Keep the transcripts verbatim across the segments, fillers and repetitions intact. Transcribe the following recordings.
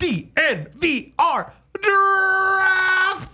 D N V R Draft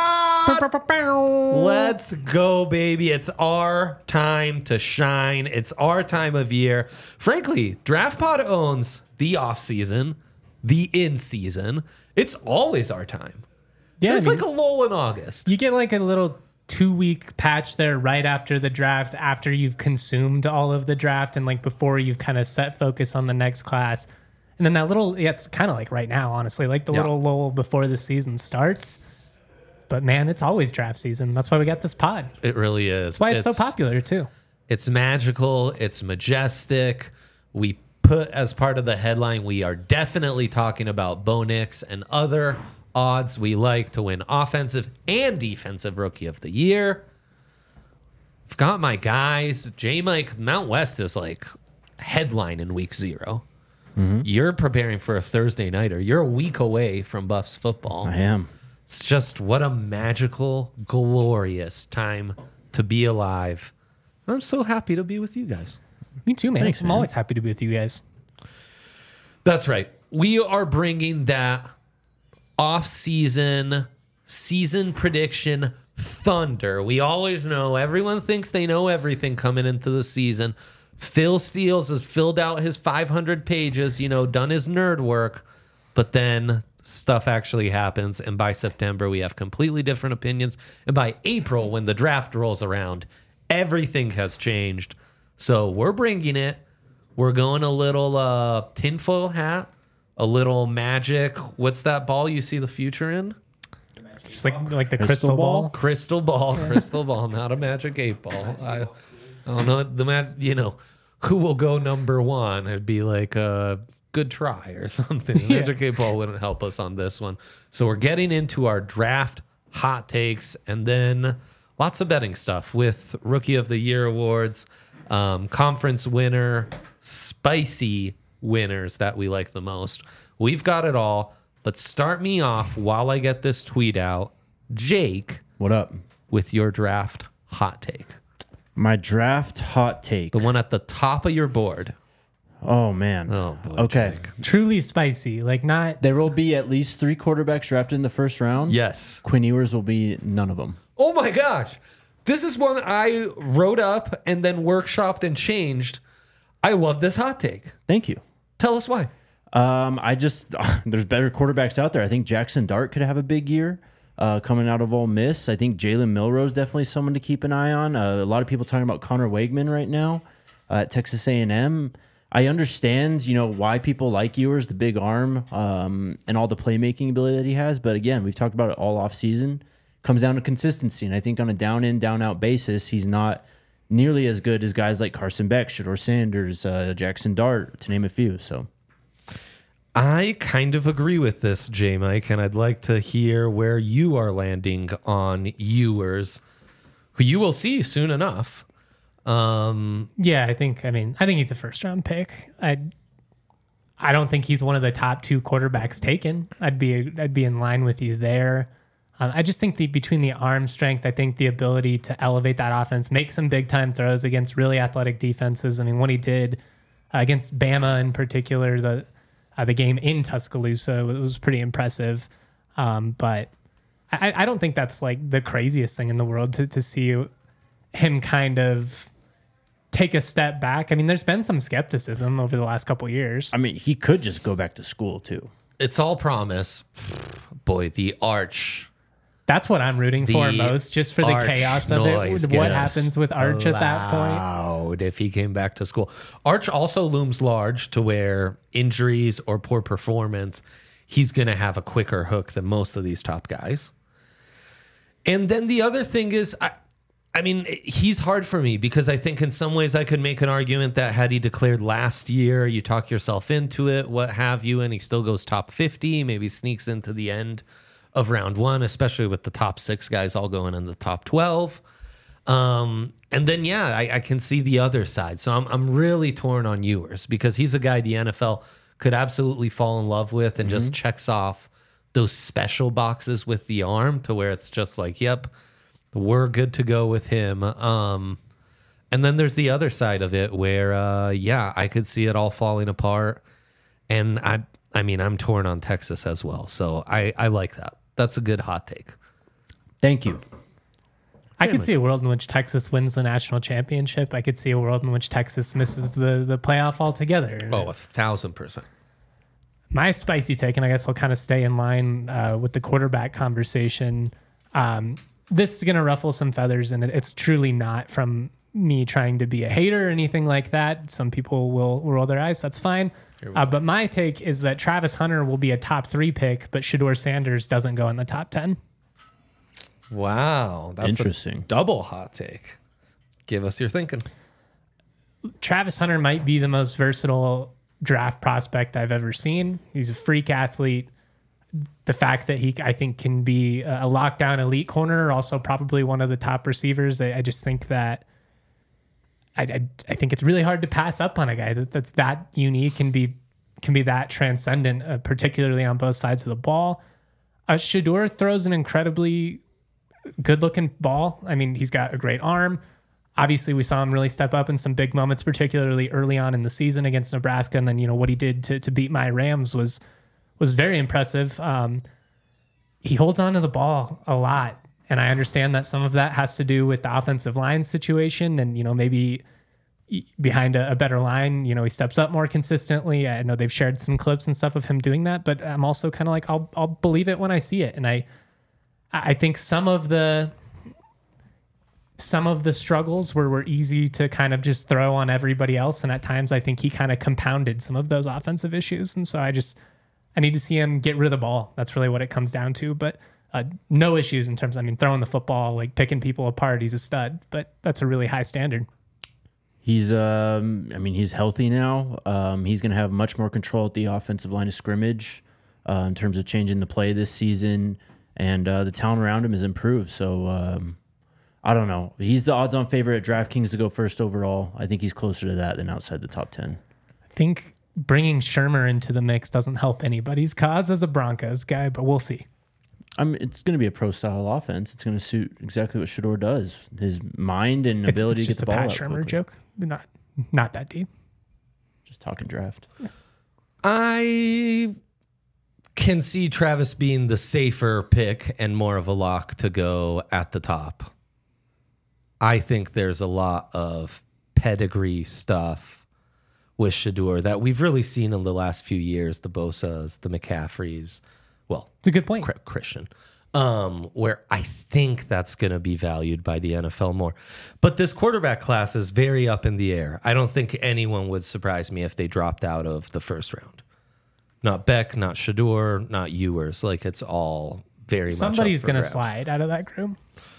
Pod. Let's go, baby. It's our time to shine. It's our time of year. Frankly, Draft Pod owns the off season, the in season. It's always our time. Yeah, There's I mean, like a lull in August. you get like a little two week patch there right after the draft, after you've consumed all of the draft and like before you've kind of set focus on the next class. And then that little, yeah, it's kind of like right now, honestly, like the Yeah. little lull before the season starts. But man, it's always draft season. That's why we got this pod. It really is. That's why it's, so popular too. It's magical. It's majestic. We put as part of the headline, we are definitely talking about Bo Nix and other odds we like to win offensive and defensive rookie of the year. I've got my guys. J Mike, Mount West is like headline in week zero. Mm-hmm. You're preparing for a Thursday nighter. You're a week away from Buffs football. I am. It's just what a magical, glorious time to be alive. I'm so happy to be with you guys. Me too, man. Thanks, I'm man. always happy to be with you guys. That's right. We are bringing that off-season, season prediction thunder. We always know, everyone thinks they know everything coming into the season. Phil Steels has filled out his five hundred pages, you know, done his nerd work, but then stuff actually happens, and by September, we have completely different opinions, and by April, when the draft rolls around, everything has changed. So we're bringing it. We're going a little uh, tinfoil hat, a little magic. What's that ball you see the future in? It's like like the Crystal crystal, ball? ball. Crystal ball, crystal ball, not a magic eight ball. I, I don't know the man. You know, who will go number one? It'd be like a good try or something. Yeah. Magic eight ball wouldn't help us on this one. So we're getting into our draft hot takes, and then lots of betting stuff with Rookie of the Year awards, um, conference winner, spicy winners that we like the most. We've got it all. But start me off while I get this tweet out. Jake, What up? with your draft hot take. My draft hot take. The one at the top of your board. Oh, man. Oh, boy, Okay. Jake. Truly spicy. Like not There will be at least three quarterbacks drafted in the first round. Yes. Quinn Ewers will be none of them. Oh, my gosh. This is one I wrote up and then workshopped and changed. I love this hot take. Thank you. Tell us why. Um, I just there's better quarterbacks out there. I think Jackson Dart could have a big year uh, coming out of Ole Miss. I think Jalen Milroe definitely someone to keep an eye on. Uh, a lot of people talking about Connor Wegman right now uh, at Texas A and M. I understand, you know, why people like Ewers, the big arm, um, and all the playmaking ability that he has. But again, we've talked about it all off season. Comes down to consistency, and I think on a down in, down out basis, he's not nearly as good as guys like Carson Beck, Shedeur Sanders, uh, Jackson Dart, to name a few. So. I kind of agree with this, J Mike, and I'd like to hear where you are landing on Ewers, who you will see soon enough. Um, Yeah, I think. I mean, I think he's a first round pick. I, I don't think he's one of the top two quarterbacks taken. I'd be, I'd be in line with you there. Um, I just think the between the arm strength, I think the ability to elevate that offense, make some big time throws against really athletic defenses. I mean, what he did uh, against Bama in particular, the uh, the game in Tuscaloosa was, was pretty impressive. Um, but I, I don't think that's like the craziest thing in the world to to see him kind of take a step back. I mean, there's been some skepticism over the last couple of years. I mean, he could just go back to school too. it's all promise. Boy, the arch. That's what I'm rooting for The most, just for the arch chaos of noise it. What gets happens with Arch at that point? Loud if he came back to school. Arch also looms large to where injuries or poor performance, he's going to have a quicker hook than most of these top guys. And then the other thing is, I, I mean, he's hard for me because I think in some ways I could make an argument that had he declared last year, you talk yourself into it, what have you, and he still goes top fifty, maybe sneaks into the end of round one, especially with the top six guys all going in the top twelve. Um, and then, yeah, I, I can see the other side. So I'm I'm really torn on Ewers because he's a guy the N F L could absolutely fall in love with and mm-hmm. just checks off those special boxes with the arm to where it's just like, yep, we're good to go with him. Um, and then there's the other side of it where, uh, yeah, I could see it all falling apart. And I I mean, I'm torn on Texas as well. So I, I like that. That's a good hot take. Thank you. I could see a world in which Texas wins the national championship. I could see a world in which Texas misses the, the playoff altogether. Oh, a thousand percent. My spicy take, and I guess I'll kind of stay in line uh, with the quarterback conversation. Um, this is going to ruffle some feathers, and it, it's truly not from me trying to be a hater or anything like that. Some people will roll their eyes. That's fine. Uh, but my take is that Travis Hunter will be a top three pick, but Shedeur Sanders doesn't go in the top ten. Wow. That's Interesting. a double hot take. Give us your thinking. Travis Hunter might be the most versatile draft prospect I've ever seen. He's a freak athlete. The fact that he, I think, can be a lockdown elite corner, also probably one of the top receivers. I, I just think that I, I, I think it's really hard to pass up on a guy that, that's that unique and be can be that transcendent, uh, particularly on both sides of the ball. Uh, Shedeur throws an incredibly good-looking ball. I mean, he's got a great arm. Obviously, we saw him really step up in some big moments, particularly early on in the season against Nebraska. And then, you know, what he did to to beat my Rams was was very impressive. Um, he holds on to the ball a lot. And I understand that some of that has to do with the offensive line situation. And, you know, maybe behind a, a better line, you know, he steps up more consistently. I know they've shared some clips and stuff of him doing that. But I'm also kind of like, I'll I'll believe it when I see it. And I I think some of the... some of the struggles were, were easy to kind of just throw on everybody else. And at times I think he kind of compounded some of those offensive issues. And so I just, I need to see him get rid of the ball. That's really what it comes down to. But uh, no issues in terms of, I mean, throwing the football, like picking people apart. He's a stud, but that's a really high standard. He's, um, I mean, he's healthy now. Um, he's going to have much more control at the offensive line of scrimmage uh, in terms of changing the play this season. And uh, the talent around him has improved. So, um, I don't know. He's the odds-on favorite at DraftKings to go first overall. I think he's closer to that than outside the top ten. I think bringing Shermer into the mix doesn't help anybody's cause as a Broncos guy, but we'll see. I mean, it's going to be a pro-style offense. It's going to suit exactly what Shedeur does. His mind and It's, ability it's to get just the a ball Pat out Shermer quickly. joke. Not, not that deep. Just talking draft. I can see Travis being the safer pick and more of a lock to go at the top. I think there's a lot of pedigree stuff with Shedeur that we've really seen in the last few years, the Bosas, the McCaffreys, well, It's a good point. Christian, um, where I think that's going to be valued by the N F L more. But this quarterback class is very up in the air. I don't think anyone would surprise me if they dropped out of the first round. Not Beck, not Shedeur, not Ewers. Like, it's all very Somebody's much up for going to grabs. slide out of that group.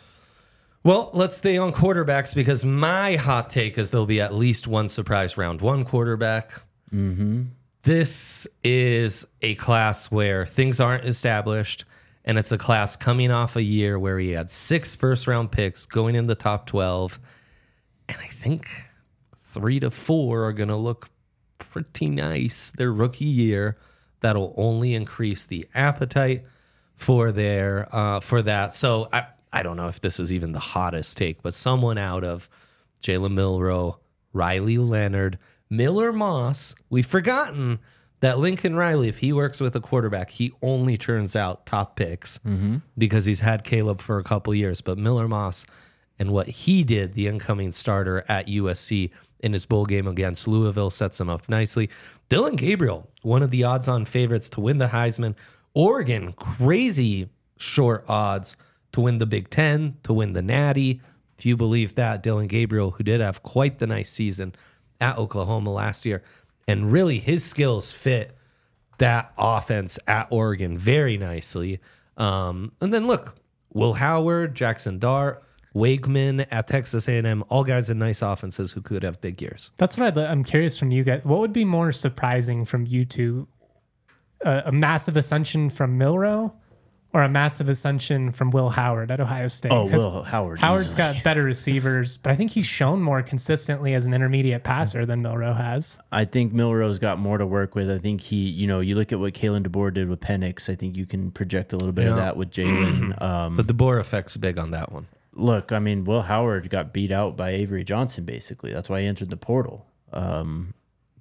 Well, let's stay on quarterbacks because my hot take is there'll be at least one surprise round one quarterback. Mm-hmm. This is a class where things aren't established, and it's a class coming off a year where he had six first-round picks going in the top twelve, and I think three to four are going to look pretty nice their rookie year. That'll only increase the appetite for their uh, for that. So I. I don't know if this is even the hottest take, but someone out of Jalen Milroe, Riley Leonard, Miller Moss. We've forgotten that Lincoln Riley, if he works with a quarterback, he only turns out top picks mm-hmm. because he's had Caleb for a couple years. But Miller Moss and what he did, the incoming starter at U S C in his bowl game against Louisville, sets him up nicely. Dylan Gabriel, one of the odds-on favorites to win the Heisman. Oregon, crazy short odds to win the Big Ten, to win the Natty. If you believe that, Dylan Gabriel, who did have quite the nice season at Oklahoma last year, and really his skills fit that offense at Oregon very nicely. Um, and then look, Will Howard, Jackson Dart, Wakeman at Texas A and M, all guys in nice offenses who could have big years. That's what I'd, I'm curious from you guys. What would be more surprising from you two? Uh, a massive ascension from Milroe or a massive ascension from Will Howard at Ohio State? Oh, Will Howard. Howard's easily. got better receivers, but I think he's shown more consistently as an intermediate passer than Milroe has. I think Milroe's got more to work with. I think he, you know, you look at what Kalen DeBoer did with Penix. I think you can project a little bit Yeah. of that with Jalen. Um, The DeBoer effect's big on that one. look, I mean, Will Howard got beat out by Avery Johnson, basically. That's why he entered the portal. Um,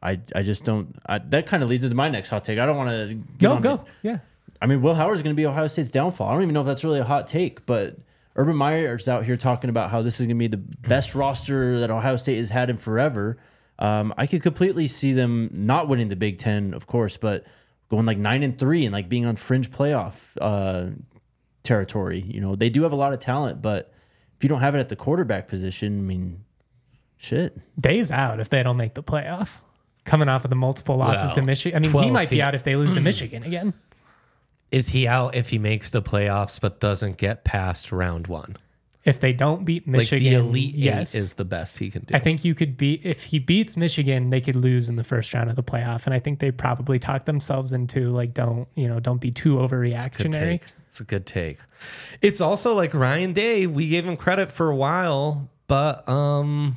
I I just don't. I, that kind of leads into my next hot take. I don't want to Go, go. Yeah. I mean, Will Howard's going to be Ohio State's downfall. I don't even know if that's really a hot take, but Urban Meyer's out here talking about how this is going to be the best roster that Ohio State has had in forever. Um, I could completely see them not winning the Big Ten, of course, but going like nine and three and like being on fringe playoff uh, territory. You know, they do have a lot of talent, but if you don't have it at the quarterback position, I mean, shit. Days out if they don't make the playoff. Coming off of the multiple losses Well, to Michigan. I mean, he twelve might be team- out if they lose to Michigan again. Is he out if he makes the playoffs but doesn't get past round one? If they don't beat Michigan, like the elite yes. eight is the best he can do. I think you could beat, if he beats Michigan, they could lose in the first round of the playoff. And I think they probably talk themselves into like, don't, you know, don't be too Good overreactionary. take. It's a good take. It's also like Ryan Day. We gave him credit for a while, but um,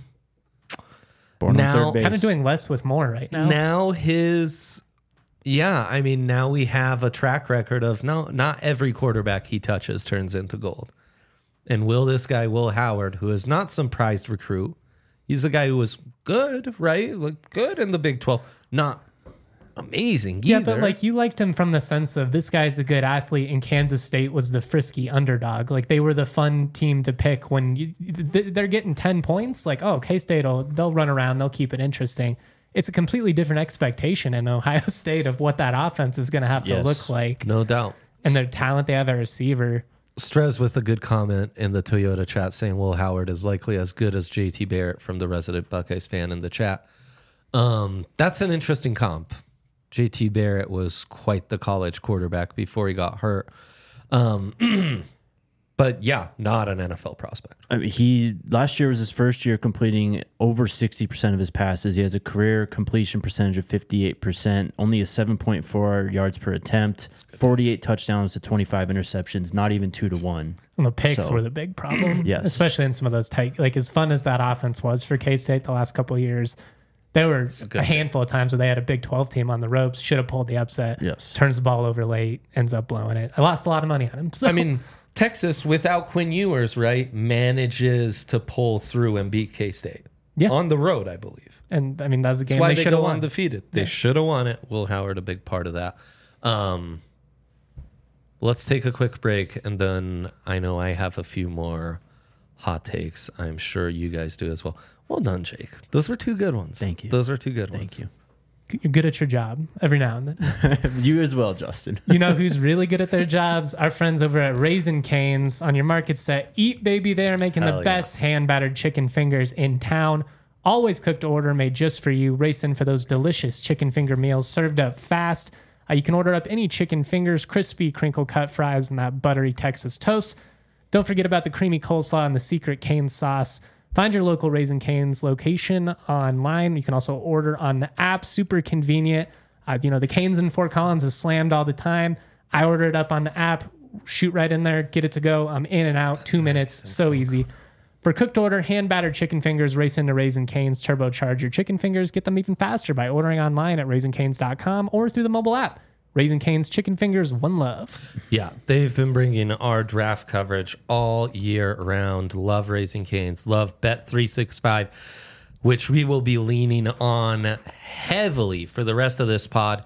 Born Now- on third base. Kind of doing less with more right now. now his, yeah, I mean, now we have a track record of no, not every quarterback he touches turns into gold. And will this guy, Will Howard, who is not some prized recruit, he's a guy who was good, right? Like good in the Big twelve, not amazing Yeah, either. but like you liked him from the sense of this guy's a good athlete, and Kansas State was the frisky underdog. Like they were the fun team to pick when you, th- they're getting ten points. Like, oh, K State will they'll run around, they'll keep it interesting. It's a completely different expectation in Ohio State of what that offense is going to have to Yes. look like, no doubt. and the talent they have at receiver. Strez with a good comment in the Toyota chat saying Will Howard is likely as good as J T Barrett from the resident Buckeyes fan in the chat. Um, that's an interesting comp. J T Barrett was quite the college quarterback before he got hurt. Um, but yeah, not an N F L prospect. I mean, he last year was his first year completing over sixty percent of his passes. He has a career completion percentage of fifty-eight percent, only a seven point four yards per attempt, forty-eight touchdowns to twenty-five interceptions, not even two to one. And the picks So- were the big problem, Yes. especially in some of those tight. Like as fun as that offense was for K State the last couple of years, there were good a handful of times where they had a Big twelve team on the ropes, should have pulled the upset. Yes. Turns the ball over late, ends up blowing it. I lost a lot of money on him. So. I mean, Texas without Quinn Ewers, right, manages to pull through and beat K-State. Yeah. On the road, I believe. and I mean that was a game That's why they they should have go won. undefeated. They Yeah. should have won it. Will Howard, a big part of that. Um, let's take a quick break, and then I know I have a few more hot takes. I'm sure you guys do as well. Well done, Jake. Those were two good ones. Thank you. Those were two good ones. Thank you. You're good at your job every now and then. You as well, Justin. You know who's really good at their jobs? Our friends over at Raisin Canes on your market set. Eat Baby, they are making Hell the yeah. best hand battered chicken fingers in town. Always cooked to order, made just for you. Race in for those delicious chicken finger meals served up fast. Uh, you can order up any chicken fingers, crispy crinkle cut fries, and that buttery Texas toast. Don't forget about the creamy coleslaw and the secret cane sauce. Find your local Raisin Canes location online. You can also order on the app. Super convenient. Uh, you know, the Canes in Fort Collins is slammed all the time. I order it up on the app, shoot right in there, get it to go. I'm in and out, two minutes, so easy. For cooked order, hand battered chicken fingers, race into Raisin Canes, turbocharge your chicken fingers. Get them even faster by ordering online at raisin canes dot com or through the mobile app. Raisin Canes chicken fingers, one love. Yeah, they've been bringing our draft coverage all year round. Love Raising Canes. Love Bet three sixty-five, which we will be leaning on heavily for the rest of this pod.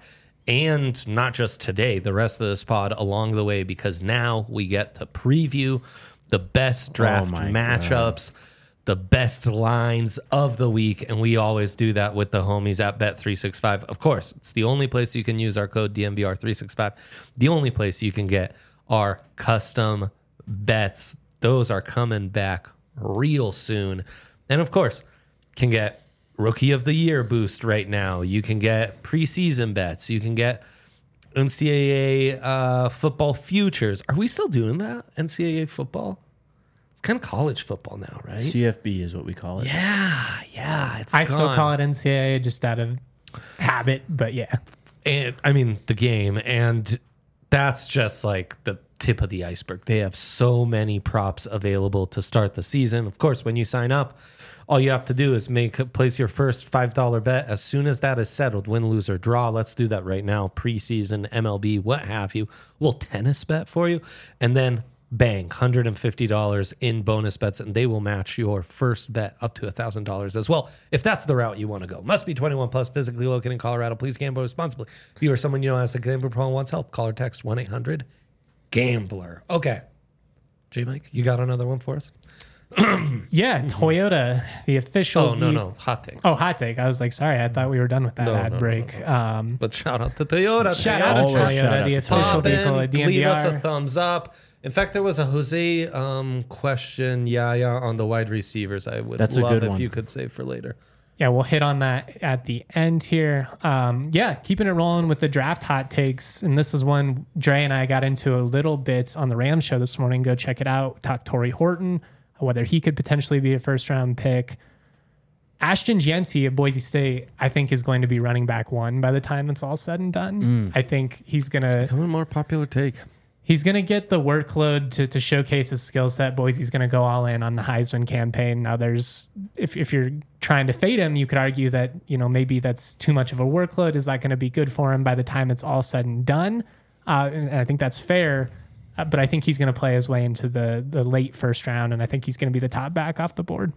And not just today, the rest of this pod along the way, because now we get to preview the best draft my matchups, the best lines of the week, and we always do that with the homies at Bet three sixty-five. Of course, it's the only place you can use our code D M V R three sixty-five. The only place you can get our custom bets. Those are coming back real soon. And of course, can get Rookie of the Year boost right now. You can get preseason bets. You can get N C double A uh, football futures. Are we still doing that? N C double A football? It's kind of college football now, right? C F B is what we call it. Yeah, yeah. It's I still gone. call it N C double A just out of habit, but yeah. And I mean the game, and that's just like the tip of the iceberg. They have so many props available to start the season. Of course, when you sign up, all you have to do is make place your first five dollar bet. As soon as that is settled, win, lose, or draw. Let's do that right now. Preseason, M L B, what have you. A little tennis bet for you, and then bang, one hundred fifty dollars in bonus bets, and they will match your first bet up to one thousand dollars as well, if that's the route you want to go. Must be twenty-one plus, physically located in Colorado. Please gamble responsibly. If you or someone you know has a gambling problem and wants help, call or text one eight hundred gambler. Okay. J-Mike, you got another one for us? Yeah, Toyota, the official. Oh, no, V- no. Hot takes. Oh, hot take. I was like, sorry, I thought we were done with that No, ad no, no, break. Um, But shout out to Toyota. shout out to Always shout Toyota, out the to official Pop vehicle in, at D M leave V us a R. thumbs up. In fact, there was a Jose um, question, yeah, yeah, on the wide receivers. I would That's a love good if one. you could save for later. Yeah, we'll hit on that at the end here. Um, yeah, keeping it rolling with the draft hot takes. And this is one Dre and I got into a little bit on the Rams show this morning. Go check it out. Talk Torrey Horton, whether he could potentially be a first round pick. Ashton Yancey at Boise State, I think, is going to be running back one by the time it's all said and done. I think he's going to Becoming a more popular take. he's going to get the workload to, to showcase his skill set. Boise's going to go all in on the Heisman campaign. Now, there's if if you're trying to fade him, you could argue that, you know, maybe that's too much of a workload. Is that going to be good for him by the time it's all said and done? Uh, and, and I think that's fair. Uh, but I think he's going to play his way into the the late first round, and I think he's going to be the top back off the board.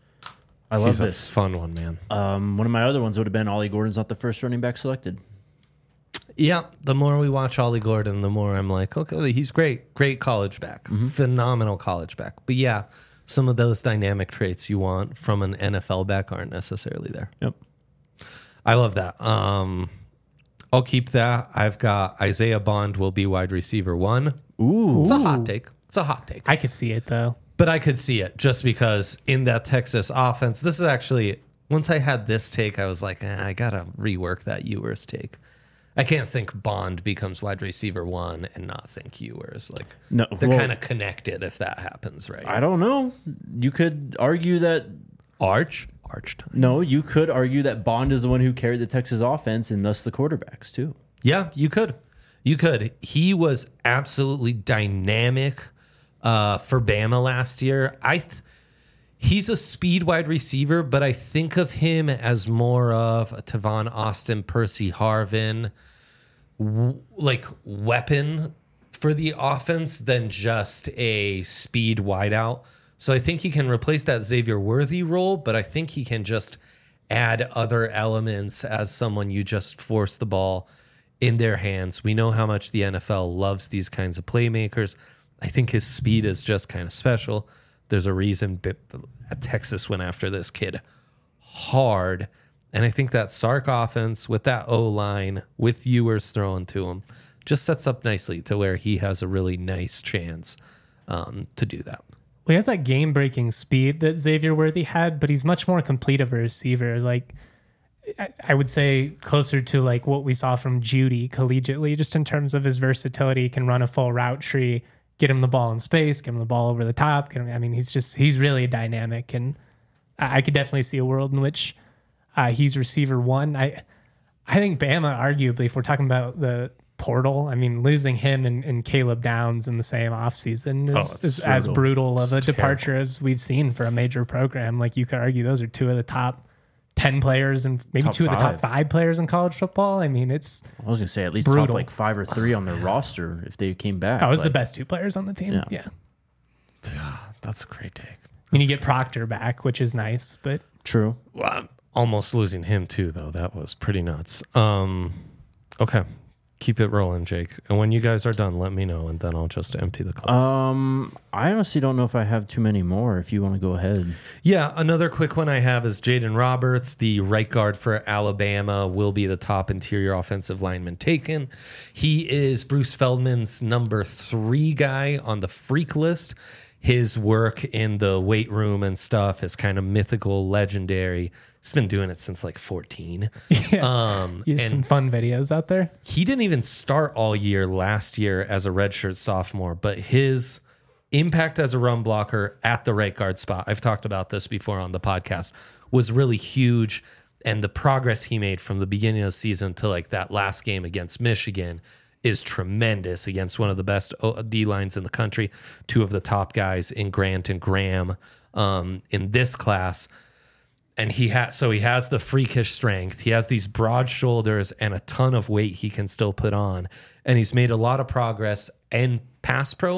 I love He's a this. fun one, man. Um, one of my other ones would have been Ollie Gordon's not the first running back selected. Yeah, the more we watch Ollie Gordon, the more I'm like, okay, he's great. Great college back. Phenomenal college back. But yeah, some of those dynamic traits you want from an N F L back aren't necessarily there. Yep. I love that. Um, I'll keep that. I've got Isaiah Bond will be wide receiver one. Ooh. It's a hot take. It's a hot take. I could see it, though. But I could see it just because in that Texas offense, this is actually, once I had this take, I was like, eh, I got to rework that Ewers take. I can't think Bond becomes wide receiver one and not think Ewers. Like, No, they're well- kind of connected if that happens, right? I don't know. You could argue that Arch? Arch time. no, you could argue that Bond is the one who carried the Texas offense and thus the quarterbacks too. Yeah, you could. You could. He was absolutely dynamic uh, for Bama last year. I th- he's a speed wide receiver, but I think of him as more of a Tavon Austin, Percy Harvin, w- like weapon for the offense than just a speed wideout. So I think he can replace that Xavier Worthy role, but I think he can just add other elements as someone you just force the ball in their hands. We know how much the N F L loves these kinds of playmakers. I think his speed is just kind of special. There's a reason Texas went after this kid hard. And I think that Sark offense with that O-line, with Ewers throwing to him, just sets up nicely to where he has a really nice chance um, to do that. Well, he has that game-breaking speed that Xavier Worthy had, but he's much more complete of a receiver. Like, I, I would say closer to like what we saw from Judy collegiately, just in terms of his versatility. He can run a full route tree, get him the ball in space, get him the ball over the top. Get him, I mean, he's just he's really dynamic, and I, I could definitely see a world in which uh, he's receiver one. I I think Bama, arguably, if we're talking about the portal, I mean, losing him and, and Caleb Downs in the same offseason is, Oh, it's is as brutal. brutal of a It's departure as we've seen for a major program. Like, you could argue those are two of the top ten players and maybe Top two of the top five. five players in college football. I mean, it's I was gonna say at least Brutal. top like five or three on their roster if they came back. that was the Like, best two players on the team. Yeah. Yeah. That's a great take. I mean, you get Proctor back, which is nice, but True. Well, I'm almost losing him too, though. That was pretty nuts. Um, okay. Keep it rolling, Jake. And when you guys are done, let me know, and then I'll just empty the clip. Um, I honestly don't know if I have too many more. If you want to go ahead, Yeah, another quick one I have is Jaden Roberts, the right guard for Alabama, will be the top interior offensive lineman taken. He is Bruce Feldman's number three guy on the freak list. His work in the weight room and stuff is kind of mythical, legendary. He's been doing it since like fourteen. yeah, Um, you have and some fun videos out there. he didn't even start all year last year as a redshirt sophomore, but his impact as a run blocker at the right guard spot, I've talked about this before on the podcast, was really huge. And the progress he made from the beginning of the season to like that last game against Michigan is tremendous against one of the best D lines in the country, two of the top guys in Grant and Graham um, in this class. And he has, so he has the freakish strength. He has these broad shoulders and a ton of weight he can still put on. And he's made a lot of progress in pass pro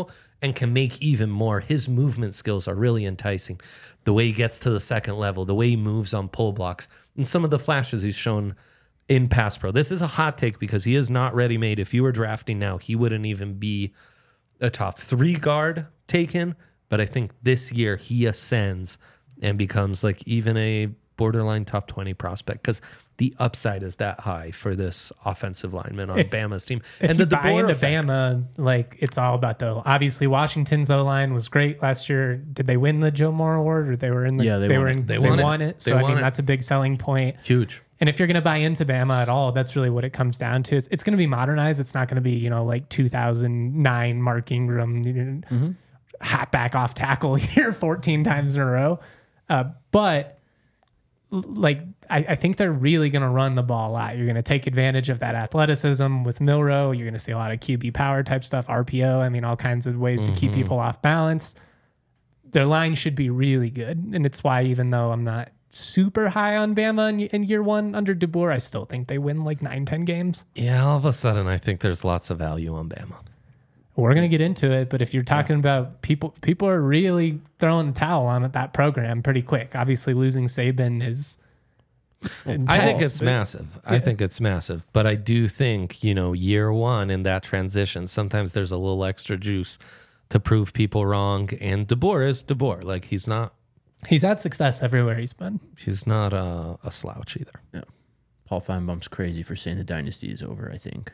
and can make even more. His movement skills are really enticing. The way he gets to the second level, the way he moves on pull blocks, and some of the flashes he's shown in pass pro. This is a hot take because he is not ready made. If you were drafting now, he wouldn't even be a top three guard taken. But I think this year he ascends and becomes like even a borderline top twenty prospect because the upside is that high for this offensive lineman on If- Bama's team. If and you the buy DeBoer into effect. Bama, like it's all about the obviously Washington's O line was great last year. Did they win the Joe Moore Award or they were in the Yeah, they they won were it. in They they, won won, it. it. They So I won mean it. that's a big selling point. Huge. And if you're going to buy into Bama at all, that's really what it comes down to. It's, it's going to be modernized. It's not going to be, you know, like two thousand nine Mark Ingram, you know, Mm-hmm. hat back off tackle here fourteen times in a row. Uh, but l- like, I, I think they're really going to run the ball a lot. You're going to take advantage of that athleticism with Milrow. You're going to see a lot of Q B power type stuff, R P O. I mean, all kinds of ways to keep people off balance. Their line should be really good. And it's why, even though I'm not super high on Bama in, in year one under DeBoer, I still think they win like nine, ten games. Yeah, all of a sudden I think there's lots of value on Bama. We're going to get into it. But if you're talking about people, people are really throwing the towel on that program pretty quick. Obviously, losing Saban is intense, I think it's but- massive. I think it's massive. But I do think, you know, year one in that transition, sometimes there's a little extra juice to prove people wrong. And DeBoer is DeBoer. Like he's not He's had success everywhere he's been. he's not a, a slouch either. Yeah. Paul Feinbaum's crazy for saying the dynasty is over, I think.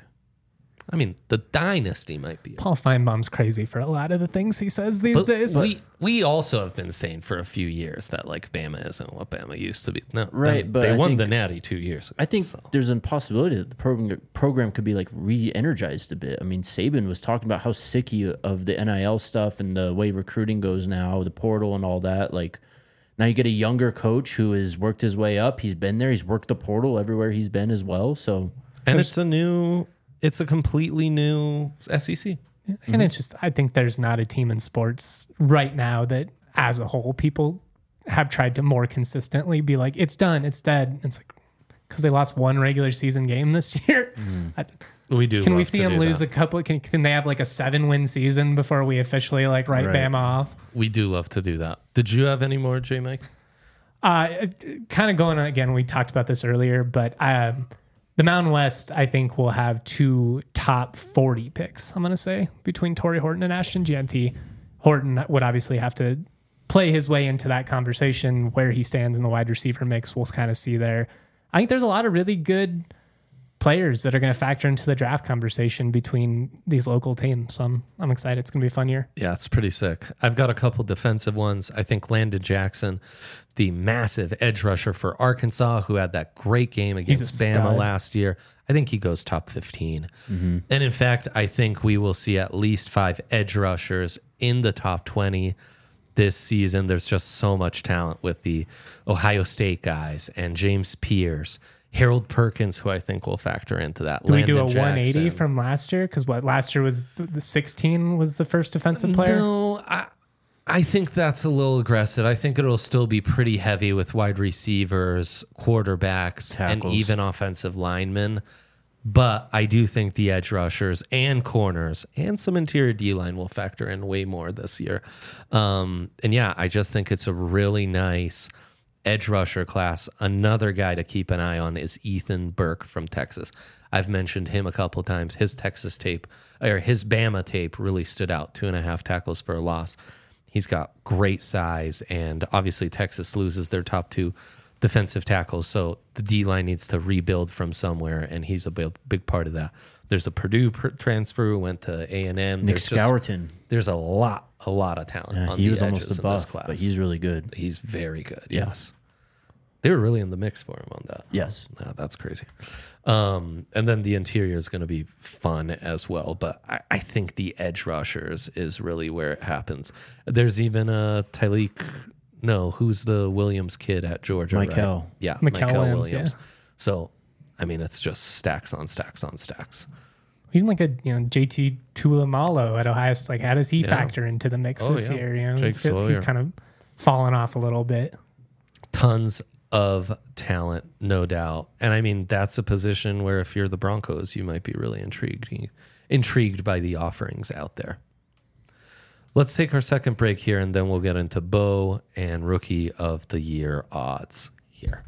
I mean, the dynasty might be. Paul Feinbaum's crazy for a lot of the things he says these But days. we we also have been saying for a few years that like Bama isn't what Bama used to be. No, Right, them- but they I won think- the Natty two years ago. I think so. there's a possibility that the program program could be like re-energized a bit. I mean, Saban was talking about how sick he of the N I L stuff and the way recruiting goes now, the portal and all that. Like now you get a younger coach who has worked his way up. He's been there. He's worked the portal everywhere he's been as well. So And it's a new, it's a completely new S E C. And it's just, I think there's not a team in sports right now that, as a whole, people have tried to more consistently be like, it's done, it's dead. It's like, because they lost one regular season game this year. I- We do. can we love see to them do lose that. a couple? Can, can they have like a seven win season before we officially like write Right. Bama off? We do love to do that. Did you have any more, J Mike? Uh, kind of going on again, we talked about this earlier, but um, the Mountain West, I think, will have two top forty picks, I'm going to say, between Torrey Horton and Ashton Jeanty. Horton would obviously have to play his way into that conversation. Where he stands in the wide receiver mix, we'll kind of see there. I think there's a lot of really good players that are going to factor into the draft conversation between these local teams. So I'm, I'm excited. It's going to be a fun year. Yeah, it's pretty sick. I've got a couple defensive ones. I think Landon Jackson, the massive edge rusher for Arkansas, who had that great game He's a against Bama stud. last year. I think he goes top fifteen. And in fact, I think we will see at least five edge rushers in the top twenty this season. There's just so much talent with the Ohio State guys and James Pierce, Harold Perkins, who I think will factor into that. Do we do a Landon one eighty Jackson. from last year? Because what last year was the, the sixteen was the first defensive player. No, I, I think that's a little aggressive. I think it'll still be pretty heavy with wide receivers, quarterbacks, and Tackles. even offensive linemen. But I do think the edge rushers and corners and some interior D line will factor in way more this year. Um, and yeah, I just think it's a really nice edge rusher class. Another guy to keep an eye on is Ethan Burke from Texas. I've mentioned him a couple times. His Texas tape or his Bama tape really stood out. Two and a half tackles for a loss. He's got great size, and obviously Texas loses their top two defensive tackles, so the D line needs to rebuild from somewhere, and he's a big, big part of that. There's a Purdue pr- transfer who went to A and M. Nick There's just- Scourton, There's a lot, a lot of talent yeah, on he the was edges almost a in this buff, class. but he's really good. He's very good. Yeah. Yes, they were really in the mix for him on that. Yes. No, that's crazy. Um, and then the interior is going to be fun as well. But I, I think the edge rushers is really where it happens. There's even a Tyleek. No, who's the Williams kid at Georgia? right? Mikel. Yeah, Mikel Mikel Williams, Williams. yeah. So, I mean, it's just stacks on stacks on stacks. Even like a you know J T Tulamalo at Ohio State, like how does he Yeah. factor into the mix Oh, this yeah. year? You know, Jake He feels- he's Sawyer. kind of fallen off a little bit. Tons of talent, no doubt. And I mean, that's a position where if you're the Broncos, you might be really intrigued intrigued by the offerings out there. Let's take our second break here, and then we'll get into Bo and Rookie of the Year odds here.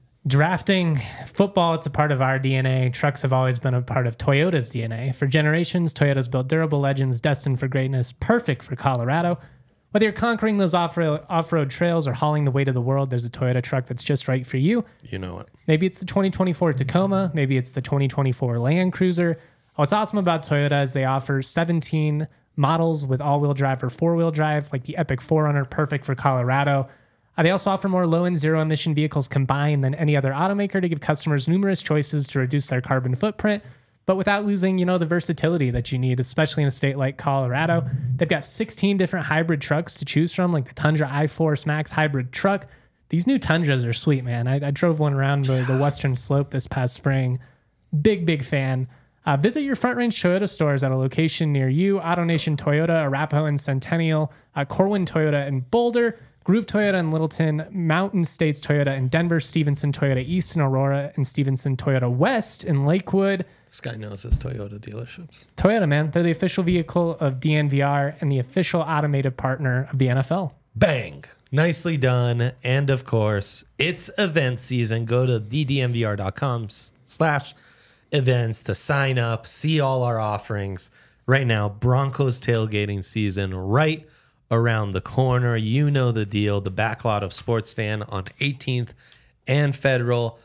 Drafting football, it's a part of our D N A. Trucks have always been a part of Toyota's D N A. For generations, Toyota's built durable legends destined for greatness, perfect for Colorado. Whether you're conquering those off-road, off-road trails or hauling the weight of the world, there's a Toyota truck that's just right for you. You know it. Maybe it's the twenty twenty-four Tacoma. Maybe it's the twenty twenty-four Land Cruiser. What's awesome about Toyota is they offer seventeen models with all-wheel drive or four-wheel drive, like the Epic four runner, perfect for Colorado. Uh, they also offer more low and zero-emission vehicles combined than any other automaker to give customers numerous choices to reduce their carbon footprint, but without losing, you know, the versatility that you need, especially in a state like Colorado. They've got sixteen different hybrid trucks to choose from, like the Tundra iForce Max hybrid truck. These new Tundras are sweet, man. I, I drove one around the, the Western Slope this past spring. Big, big fan. Uh, visit your Front Range Toyota stores at a location near you. AutoNation Toyota, Arapahoe and Centennial, uh, Corwin Toyota in Boulder, Groove Toyota in Littleton, Mountain States Toyota in Denver, Stevenson Toyota East in Aurora, and Stevenson Toyota West in Lakewood. This guy knows his Toyota dealerships. Toyota, man. They're the official vehicle of D N V R and the official automated partner of the N F L. Bang. Nicely done. And of course, it's event season. Go to d d m v r dot com slash events to sign up, see all our offerings. Right now, Broncos tailgating season right around the corner. You know the deal. The backlot of Sports Fan on eighteenth and Federal.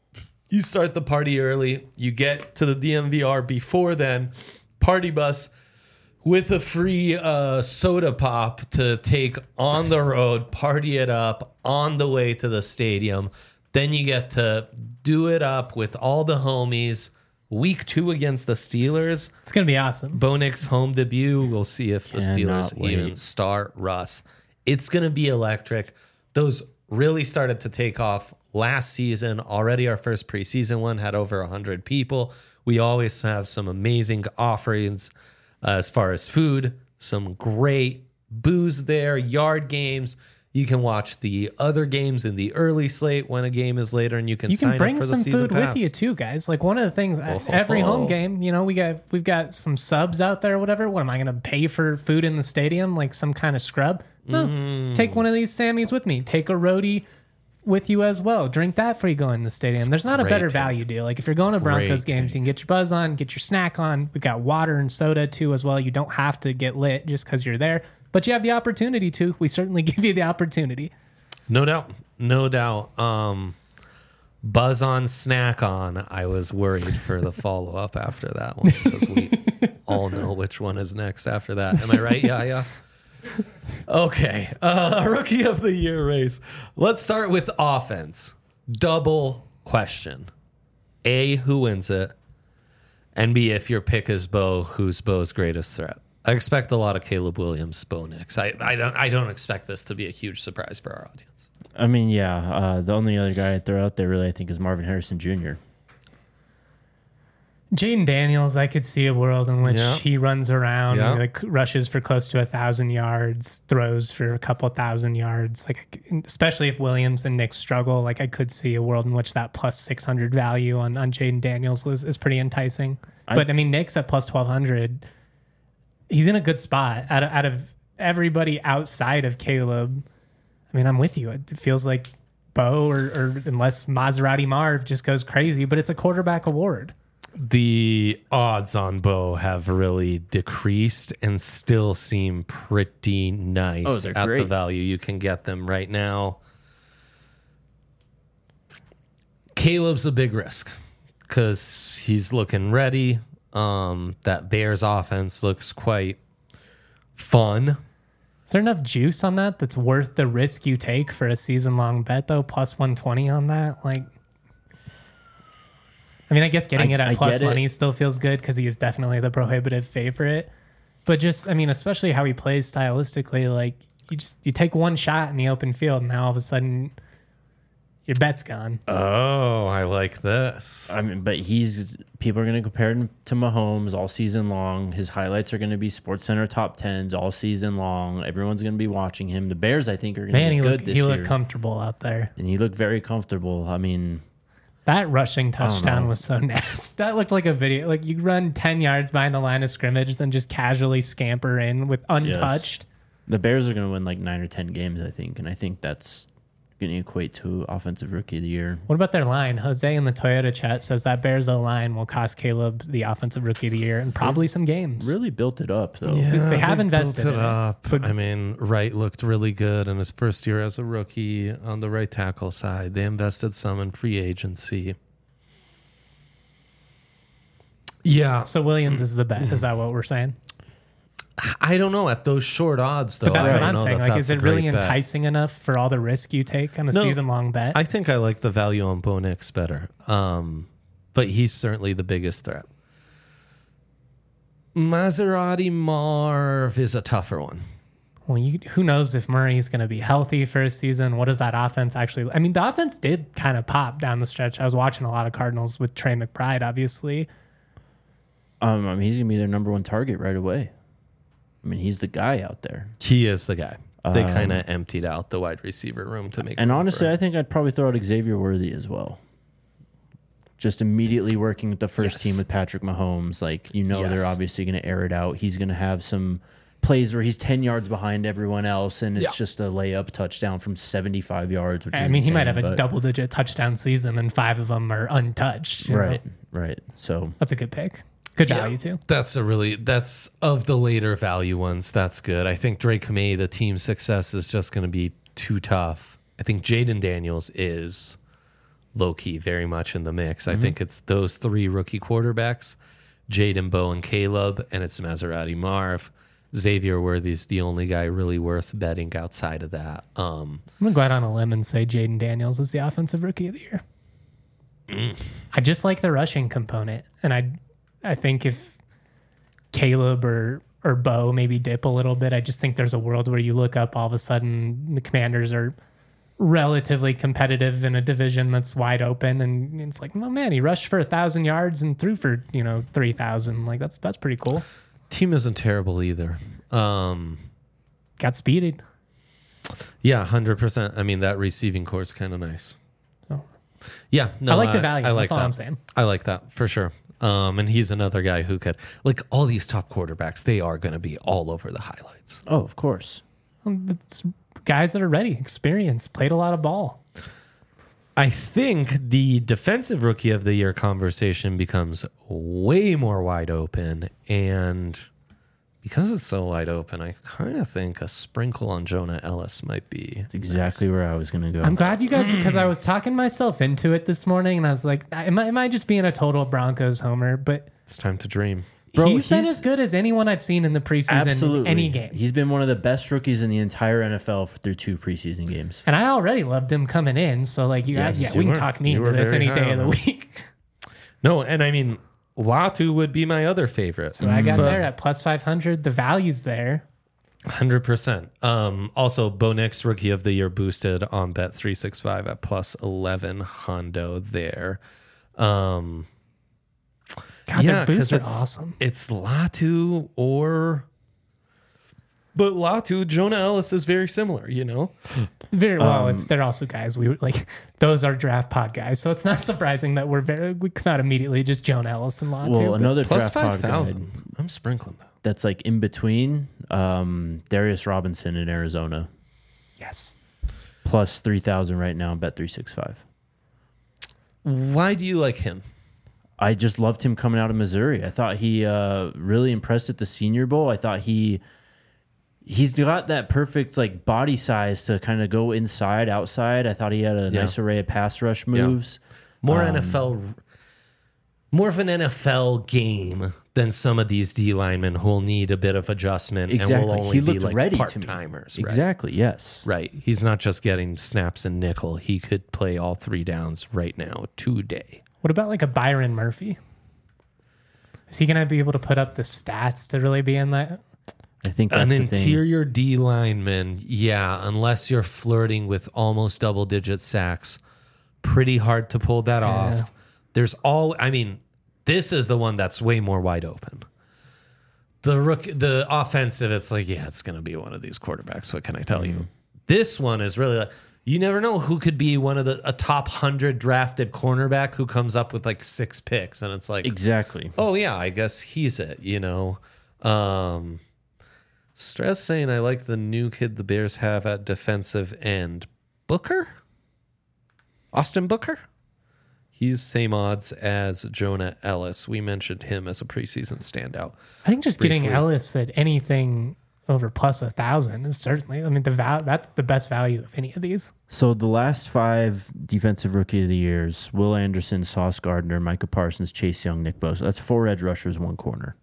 You start the party early. You get to the D M V R before then. Party bus with a free uh, soda pop to take on the road, party it up on the way to the stadium. Then you get to do it up with all the homies. Week two against the Steelers. It's going to be awesome. Bo Nix home debut. We'll see if the Cannot Steelers wait. even start Russ. It's going to be electric. Those really started to take off last season. Already our first preseason one had over one hundred people. We always have some amazing offerings uh, as far as food, some great booze there, yard games. You can watch the other games in the early slate when a game is later, and you can, You sign can bring up for the some season food pass. with you too, guys. Like one of the things, Oh, every oh, home oh. game, you know, we got we've got some subs out there, or whatever. What am I going to pay for food in the stadium, like some kind of scrub? No, Mm. take one of these Sammys with me. Take a roadie with you as well. Drink that before you go in the stadium. There's not a great better take. value deal. Like if you're going to Broncos Great games, you can get your buzz on, get your snack on. We got water and soda too as well. You don't have to get lit just because you're there, but you have the opportunity to. We certainly give you the opportunity. No doubt. No doubt. Um, Buzz on, snack on. I was worried for the follow up after that one because we all know which one is next after that. Am I right? Yeah, yeah. Okay. Uh, rookie of the year race. Let's start with offense. Double question. A, who wins it? And B, if your pick is Bo, who's Bo's greatest threat? I expect a lot of Caleb Williams, Bo Nix. I, I don't I don't expect this to be a huge surprise for our audience. I mean, yeah. Uh, the only other guy I'd throw out there, really, I think, is Marvin Harrison Junior Jaden Daniels, I could see a world in which Yeah. he runs around, Yeah. like rushes for close to a thousand yards, throws for a couple thousand yards. Like, especially if Williams and Nick struggle, like I could see a world in which that plus six hundred value on on Jaden Daniels is, is pretty enticing. I- but I mean, Nick's at plus twelve hundred. He's in a good spot out of, out of everybody outside of Caleb. I mean, I'm with you. It feels like Bo, or, or unless Maserati Marv just goes crazy, but it's a quarterback award. The odds on Bo have really decreased and still seem pretty nice Oh, they're at the great. value you can get them right now. Caleb's a big risk because he's looking ready. Um, that Bears offense looks quite fun. Is there enough juice on that that's worth the risk you take for a season long bet though? Plus one twenty on that, like. I mean, I guess getting I- it at I plus get it. money still feels good because he is definitely the prohibitive favorite. But just, I mean, especially how he plays stylistically, like you just you take one shot in the open field, and now all of a sudden your bet's gone. Oh, I like this. I mean, but he's people are going to compare him to Mahomes all season long. His highlights are going to be SportsCenter top tens all season long. Everyone's going to be watching him. The Bears, I think, are going to Man, be he good looked this he year, looked comfortable out there. and he looked very comfortable. I mean, That rushing touchdown was so nasty. That looked like a video. Like you run ten yards behind the line of scrimmage, then just casually scamper in with untouched. Yes. The Bears are going to win like nine or ten games, I think. And I think that's going to equate to Offensive Rookie of the Year. What about their line? Jose in the Toyota chat says that Bears O-line will cost Caleb the Offensive Rookie of the Year and probably some games. Really built it up, though. Yeah, They have they've invested built it in it, up. but- I mean, Wright looked really good in his first year as a rookie on the right tackle side. They invested some in free agency. Yeah, So Williams is the bet. Is that what we're saying? I don't know at those short odds though. But that's I what don't I'm know saying. that Like, that's is a it really great bet. enticing enough for all the risk you take on a No, season-long bet? I think I like the value on Bo Nix better, um, but he's certainly the biggest threat. Maserati Marv is a tougher one. Well, you, who knows if Murray's going to be healthy for a season? What does that offense actually? I mean, the offense did kind of pop down the stretch. I was watching a lot of Cardinals with Trey McBride, obviously. Um, I mean, he's going to be their number one target right away. I mean, he's the guy out there. He is the guy. They Um, kind of emptied out the wide receiver room to make. And room honestly, for- I think I'd probably throw out Xavier Worthy as well. Just immediately working with the first Yes. team with Patrick Mahomes. Like, you know, Yes. they're obviously going to air it out. He's going to have some plays where he's ten yards behind everyone else, and it's Yeah. just a layup touchdown from seventy-five yards, which I is mean, he might insane, have a but- double-digit touchdown season, and five of them are untouched. you know? Right, right. So, That's a good pick. Good Yeah. value, too. That's a really that's of the later value ones. That's good. I think Drake May, the team success is just going to be too tough. I think Jaden Daniels is low key very much in the mix. I think it's those three rookie quarterbacks, Jaden, Bo, and Caleb, and it's Maserati Marv. Xavier Worthy's the only guy really worth betting outside of that. Um, I'm going to go out on a limb and say Jaden Daniels is the Offensive Rookie of the Year. Mm. I just like the rushing component, and I I think if Caleb or or Bo maybe dip a little bit, I just think there's a world where you look up all of a sudden the Commanders are relatively competitive in a division that's wide open, and it's like, oh man, he rushed for a thousand yards and threw for you know three thousand. Like that's that's pretty cool. team isn't terrible either. Um, Got speeded. yeah, one hundred percent. I mean, that receiving core is kind of nice. So Yeah, no, I like the value. I like That's all that. I'm saying. I like that for sure. Um, and he's another guy who could, like all these top quarterbacks, they are going to be all over the highlights. oh, of course. It's guys that are ready, experienced, played a lot of ball. I think the defensive rookie of the year conversation becomes way more wide open. And because it's so wide open, I kind of think a sprinkle on Jonah Ellis might be That's exactly where I was going to go. I'm glad you guys, because I was talking myself into it this morning, and I was like, am I, am I just being a total Broncos homer? But It's time to dream. Bro, he's been he's- as good as anyone I've seen in the preseason, Absolutely. any game. He's been one of the best rookies in the entire N F L through two preseason games. And I already loved him coming in, so like, you, Yes, yeah, you we can were. talk me You into were this very any high day of on the him. week. No, and I mean, Latu would be my other favorite. So I got But- there at plus five hundred. The value's there. one hundred percent. Um, also, Bo Nix, Rookie of the Year boosted on Bet three sixty-five at plus eleven Hondo there. Um, God, yeah, their boosts 'cause are it's, awesome. It's Latu or... But Latu, Jonah Ellis is very similar, you know? Very well. Um, it's they're also guys we like. Those are draft pod guys, so it's not surprising that we're very we come out immediately just Joan Ellis and Latu. Well, but- another Plus draft pod five guide thousand. I'm sprinkling that. that's like in between um, Darius Robinson in Arizona, yes. plus three thousand right now, Bet three sixty-five. Why do you like him? I just loved him coming out of Missouri. I thought he uh, really impressed at the Senior Bowl. I thought he he's got that perfect like body size to kind of go inside, outside. I thought he had a Yeah. nice array of pass rush moves. More Um, N F L, more of an N F L game than some of these D linemen who will need a bit of adjustment and Exactly. will only He be looked like ready to part me. timers. Right? Exactly. Yes. Right. He's not just getting snaps and nickel. He could play all three downs right now today. What about like a Byron Murphy? Is he gonna be able to put up the stats to really be in that? I think that's An the thing. interior D lineman, yeah, unless you're flirting with almost double digit sacks, pretty hard to pull that Yeah. off. There's all, I mean, this is the one that's way more wide open. The rook, the offensive, it's like, yeah, it's going to be one of these quarterbacks. What can I tell you? This one is really like, You never know who could be one of the a top hundred drafted cornerback who comes up with like six picks, and it's like Exactly. oh yeah, I guess he's it. You know, um, Stress saying I like the new kid the Bears have at defensive end, Booker, Austin Booker. He's same odds as Jonah Ellis. We mentioned him as a preseason standout. I think just Briefly. getting Ellis at anything over plus a thousand is certainly. I mean, the val- that's the best value of any of these. So the last five defensive rookie of the years: Will Anderson, Sauce Gardner, Micah Parsons, Chase Young, Nick Bosa. That's four edge rushers, one corner.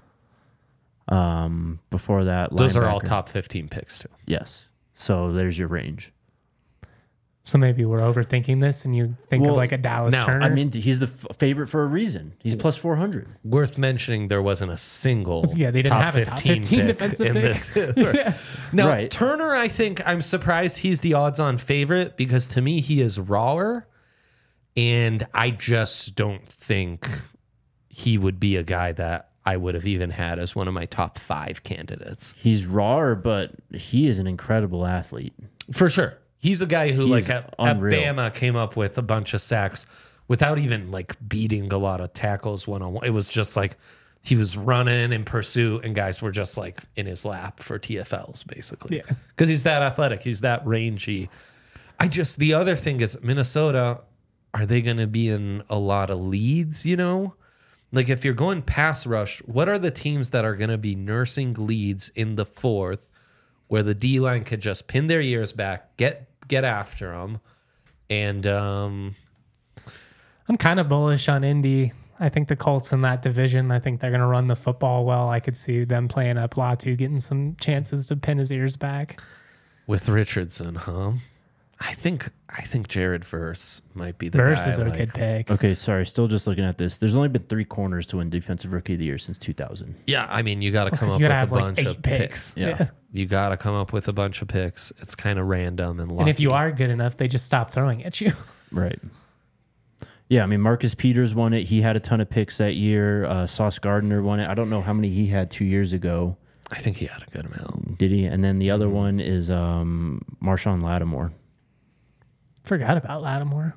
Um, before that, Those are all linebacker. top fifteen picks too. Yes. So there's your range. So maybe we're overthinking this, and you think Well, of like a Dallas now, Turner. I mean, he's the f- favorite for a reason. He's plus four hundred. Worth mentioning, there wasn't a single Yeah, they didn't top have a top fifteen, fifteen pick defensive in pick. this. Yeah. Now, Right. Turner, I think I'm surprised he's the odds-on favorite because to me he is rawer, and I just don't think he would be a guy that I would have even had as one of my top five candidates. He's raw, but he is an incredible athlete. For sure. He's a guy who, He's like, at, at unreal. Bama came up with a bunch of sacks without even, like, beating a lot of tackles one-on-one. It was just, like, he was running in pursuit, and guys were just, like, in his lap for T F Ls, basically. Yeah. Because he's that athletic. He's that rangy. I just, the other thing is Minnesota, are they going to be in a lot of leads, you know? Like, if you're going pass rush, what are the teams that are going to be nursing leads in the fourth where the D-line could just pin their ears back, get get after them, and um, I'm kind of bullish on Indy. I think the Colts in that division, I think they're going to run the football well. I could see them playing up Latu, getting some chances to pin his ears back. with Richardson, huh? I think I think Jared Verse might be the Verse guy. is a like- good pick. Okay, sorry. Still just looking at this. There's only been three corners to win Defensive Rookie of the Year since two thousand. Yeah, I mean, you got to come 'Cause up you with gotta a have like bunch eight of picks. picks. Yeah. You got to come up with a bunch of picks. It's kind of random and lucky. And if you are good enough, they just stop throwing at you. Right. Yeah, I mean, Marcus Peters won it. He had a ton of picks that year. Uh, Sauce Gardner won it. I don't know how many he had two years ago. I think he had a good amount. Did he? And then the Mm-hmm. other one is um, Marshawn Lattimore. Forgot about Lattimore.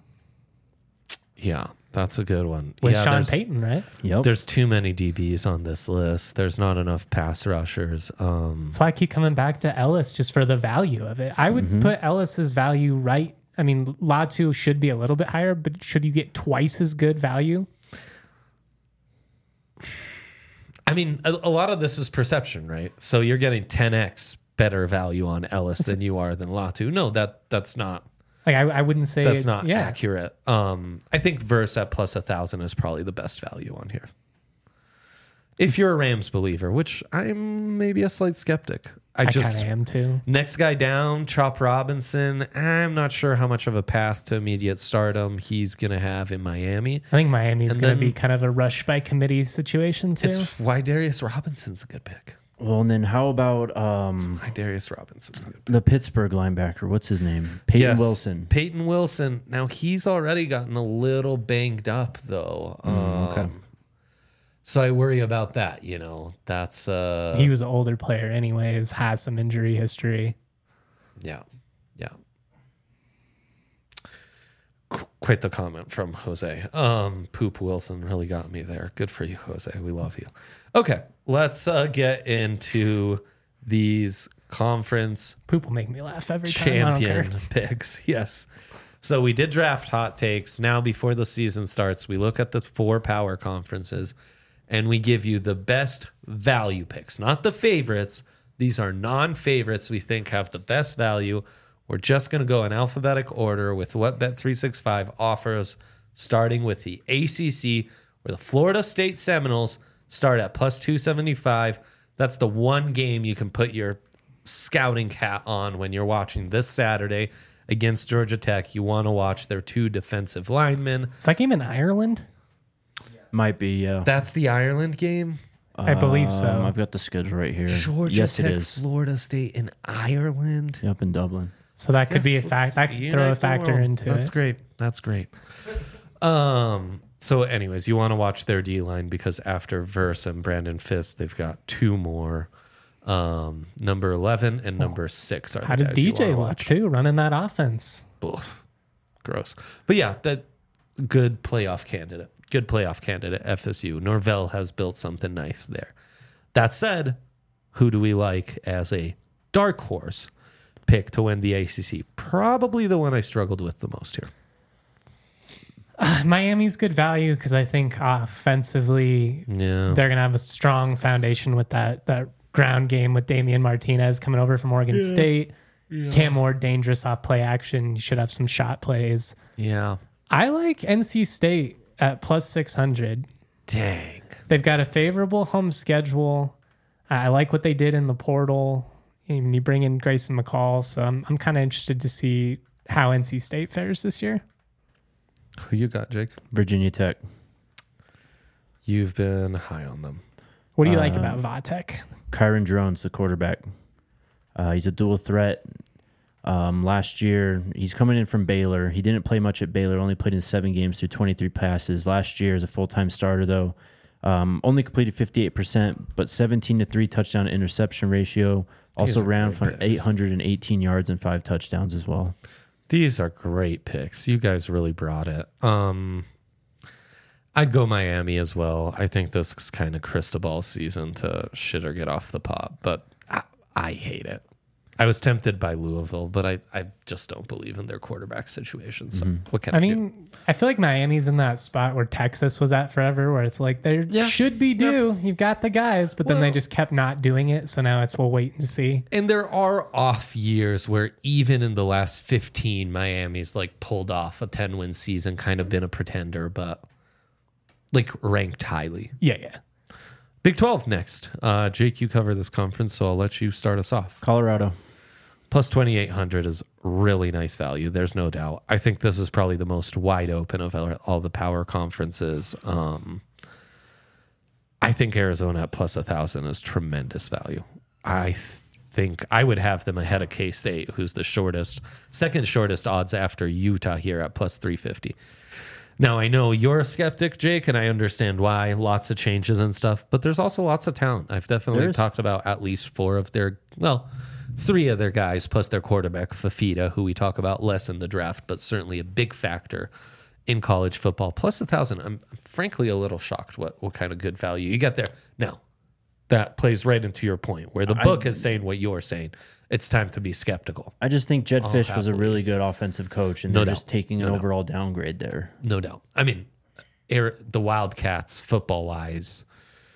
Yeah, that's a good one. With yeah, Sean there's- Payton, right? Yep. There's too many D Bs on this list. There's not enough pass rushers. Um, That's why I keep coming back to Ellis just for the value of it. I would Mm-hmm. put Ellis's value right. I mean, Latu should be a little bit higher, but should you get twice as good value? I mean, a, a lot of this is perception, right? So you're getting ten x better value on Ellis than you are than Latu. No, that that's not Like I, I wouldn't say that's it's, not yeah. accurate. Um, I think Verse at plus a thousand is probably the best value on here. If you're a Rams believer, which I'm maybe a slight skeptic. I, I just kind of am too. next guy down, Chop Robinson. I'm not sure how much of a path to immediate stardom he's gonna have in Miami. I think Miami's And going to then- be kind of a rush by committee situation too. It's why Darius Robinson's a good pick. Well, and then how about um, Why Darius Robinson's a good pick. the Pittsburgh linebacker? What's his name? Peyton Yes, Wilson. Peyton Wilson. Now he's already gotten a little banged up though. okay. Um, so I worry about that. You know, that's uh, he was an older player, anyways, has some injury history. yeah, yeah. Qu- Quite the comment from Jose. Um, Poop Wilson really got me there. Good for you, Jose. We love you. Okay, let's uh, get into these conference Poop will make me laugh every time. I don't care. champion picks. Yes. So we did draft hot takes. Now, before the season starts, we look at the four power conferences and we give you the best value picks, not the favorites. These are non favorites we think have the best value. We're just going to go in alphabetic order with what Bet three sixty-five offers, starting with the A C C, where the Florida State Seminoles start at plus two seventy-five. That's the one game you can put your scouting hat on when you're watching this Saturday against Georgia Tech. You want to watch their two defensive linemen. Is that game in Ireland? Might be, yeah. That's the Ireland game. I believe so. Um, I've got the schedule right here. Georgia yes, Tech, it is. Florida State, and Ireland. Yep, in Dublin. So that could be a Yes, fact. That could unite throw the a factor world. into That's it. great. That's great. Um. So, anyways, you want to watch their D line because after Verse and Brandon Fisk, they've got two more Um, number eleven and number six are How the does guys you D J wanna look watch. too, running that offense? Oof, gross. But yeah, that good playoff candidate. Good playoff candidate, F S U. Norvell has built something nice there. That said, who do we like as a dark horse pick to win the A C C? Probably the one I struggled with the most here. Uh, Miami's good value because I think offensively Yeah. they're going to have a strong foundation with that that ground game with Damian Martinez coming over from Oregon State. Cam Ward, dangerous off play action. You should have some shot plays. Yeah. I like N C State at plus six hundred. Dang. They've got a favorable home schedule. I like what they did in the portal. And you bring in Grayson McCall. So I'm, I'm kind of interested to see how N C State fares this year. Who you got, Jake? Virginia Tech. You've been high on them. What do you like Uh, about Vatek? Kyron Drones, the quarterback. Uh, he's a dual threat. Um, last year, he's coming in from Baylor. He didn't play much at Baylor, only played in seven games through twenty-three passes. Last year as a full-time starter, though, um, only completed fifty-eight percent, but seventeen to three touchdown to interception ratio. These Also are ran great for picks. eight hundred eighteen yards and five touchdowns as well. These are great picks. You guys really brought it. Um, I'd go Miami as well. I think this is kind of Cristobal season to shit or get off the pot, but I, I hate it. I was tempted by Louisville, but I, I just don't believe in their quarterback situation. So what can I, I do? mean, I feel like Miami's in that spot where Texas was at forever, where it's like they Yeah. should be due. You've got the guys, but then they Well- just kept not doing it. So now it's we'll wait and see. And there are off years where even in the last fifteen, Miami's like pulled off a ten win season, kind of been a pretender, but like ranked highly. Yeah, yeah. Big twelve next. Uh, Jake, you cover this conference, so I'll let you start us off. Colorado. Plus twenty-eight hundred is really nice value. There's no doubt. I think this is probably the most wide open of all all the power conferences. Um, I think Arizona at plus one thousand is tremendous value. I think I would have them ahead of K-State, who's the shortest, second shortest odds after Utah here at plus three fifty. Now, I know you're a skeptic, Jake, and I understand why. Lots of changes and stuff, but there's also lots of talent. I've definitely There is. talked about at least four of their, well, three of their guys plus their quarterback, Fafita, who we talk about less in the draft, but certainly a big factor in college football. Plus a thousand. I'm, I'm frankly a little shocked what, what kind of good value you get there. Now, that plays right into your point where the book is saying what you're saying. It's time to be skeptical. I just think Jed Fish was a happily. really good offensive coach, and No they're doubt. just taking an No doubt. overall downgrade there. No doubt. I mean, Air- the Wildcats, football wise,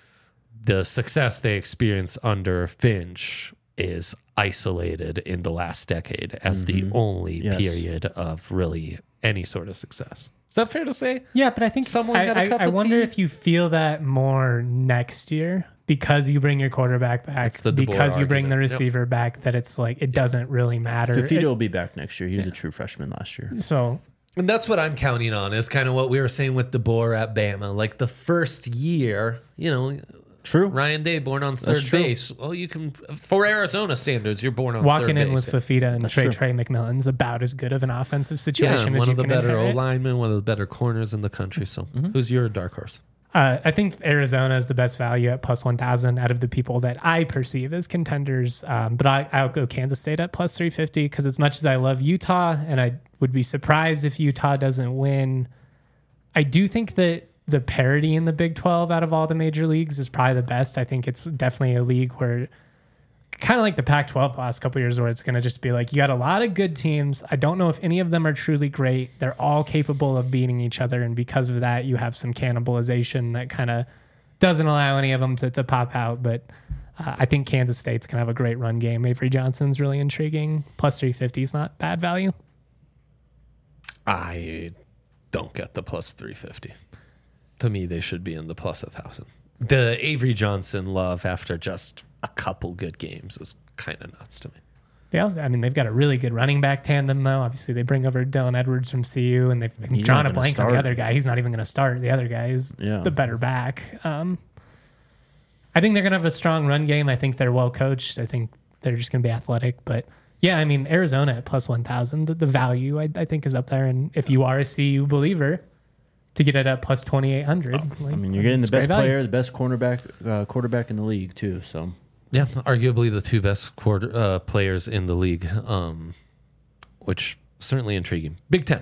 the success they experienced under Finch is isolated in the last decade as the only Yes. period of really any sort of success. Is that fair to say? Yeah, but I think Someone I, got a I, cup I of wonder tea? if you feel that more next year because you bring your quarterback back, It's the De Boer because you bring the argument. Yep. receiver back, that it's like it doesn't really matter. Fafita It- will be back next year. He was a true freshman last year. so And that's what I'm counting on is kind of what we were saying with DeBoer at Bama. Like the first year, you know, True. Ryan Day born on third true. base. Well, you can, for Arizona standards, you're born on walking third in base. with Fafita and Trey true. Trey McMillan's about as good of an offensive Yeah, situation and as one you of the can better inherit. O linemen, one of the better corners in the country. So, who's your dark horse? Uh, I think Arizona is the best value at plus one thousand out of the people that I perceive as contenders. Um, but I, I'll go Kansas State at plus three fifty because as much as I love Utah and I would be surprised if Utah doesn't win, I do think that the parity in the Big twelve out of all the major leagues is probably the best. I think it's definitely a league where kind of like the Pac twelve the last couple of years where it's going to just be like you got a lot of good teams. I don't know if any of them are truly great. They're all capable of beating each other. And because of that, you have some cannibalization that kind of doesn't allow any of them to, to pop out. But uh, I think Kansas State's going to have a great run game. Avery Johnson's really intriguing. Plus three fifty is not bad value. I don't get the plus three fifty. To me, they should be in the plus one thousand. The Avery Johnson love after just a couple good games is kind of nuts to me. They also, I mean, they've got a really good running back tandem, though. Obviously, they bring over Dylan Edwards from C U, and they've He's drawn not a gonna blank on the start. other guy. He's not even going to start. The other guy is Yeah. the better back. Um, I think they're going to have a strong run game. I think they're well coached. I think they're just going to be athletic. But yeah, I mean, Arizona at plus one thousand, the, the value I, I think is up there. And if you are a C U believer, to get it at plus twenty-eight hundred. I mean, you're getting the best player, the best cornerback, uh, quarterback in the league too. So Yeah, arguably the two best quarter uh, players in the league, um, which certainly intriguing. Big Ten.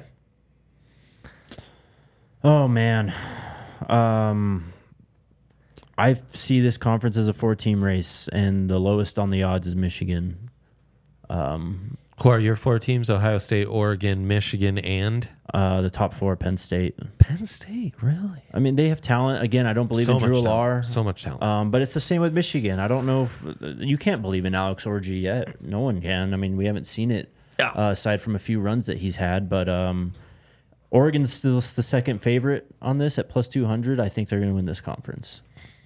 Oh man, um, I see this conference as a four-team race, and the lowest on the odds is Michigan. Um, Who are your four teams? Ohio State, Oregon, Michigan, and uh, the top four, Penn State. Penn State. Really? I mean, they have talent. Again, I don't believe So in Drew much Lar. talent. So much talent. Um, but it's the same with Michigan. I don't know if you can't believe in Alex Orgy yet. No one can. I mean, we haven't seen it Yeah. uh, aside from a few runs that he's had. But um, Oregon's still the second favorite on this at plus two hundred. I think they're going to win this conference.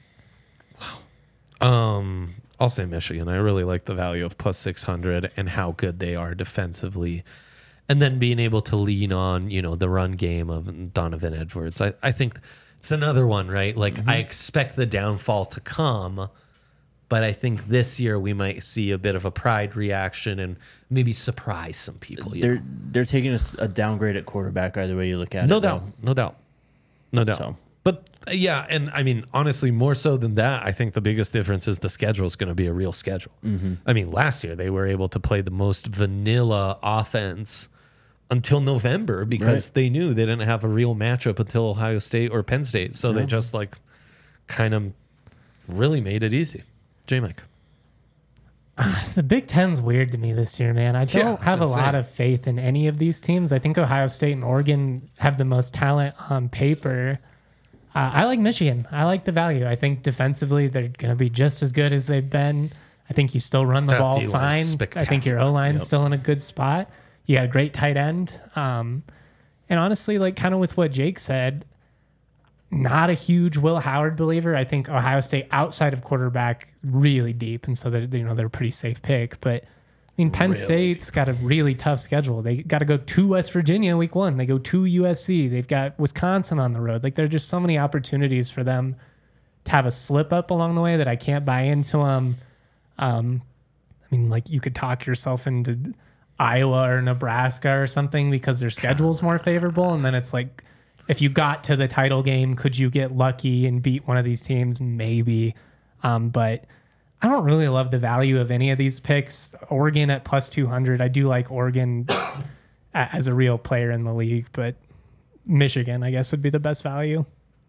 Um, I'll say Michigan. I really like the value of plus six hundred and how good they are defensively. And then being able to lean on, you know, the run game of Donovan Edwards. I, I think it's another one, right? Like, Mm-hmm. I expect the downfall to come, but I think this year we might see a bit of a pride reaction and maybe surprise some people. You They're know? they're taking a, s- a downgrade at quarterback either way you look at No it. doubt. No doubt. No doubt. So. But uh, yeah, and I mean, honestly, more so than that, I think the biggest difference is the schedule is going to be a real schedule. Mm-hmm. I mean, last year they were able to play the most vanilla offense until November because Right. they knew they didn't have a real matchup until Ohio State or Penn State. So they just like kind of really made it easy. J Mike. The Big Ten's weird to me this year, man. I Yeah, don't it's have a insane. lot of faith in any of these teams. I think Ohio State and Oregon have the most talent on paper. Uh, I like Michigan. I like the value. I think defensively they're going to be just as good as they've been. I think you still run the That ball D-line's fine. I think your spectacular. O line's Yep. still in a good spot. You got a great tight end. Um, and honestly, like kind of with what Jake said, not a huge Will Howard believer. I think Ohio State outside of quarterback really deep, and so they're you know they're a pretty safe pick. But I mean, Penn Really State's got a really tough schedule. They got to go to West Virginia week one. They go to U S C. They've got Wisconsin on the road. Like there are just so many opportunities for them to have a slip up along the way that I can't buy into them. Um, I mean, like you could talk yourself into Iowa or Nebraska or something because their schedule's more favorable, and then it's like, if you got to the title game, could you get lucky and beat one of these teams? Maybe. Um, but I don't really love the value of any of these picks. Oregon at plus two hundred. I do like Oregon as a real player in the league, but Michigan, I guess, would be the best value.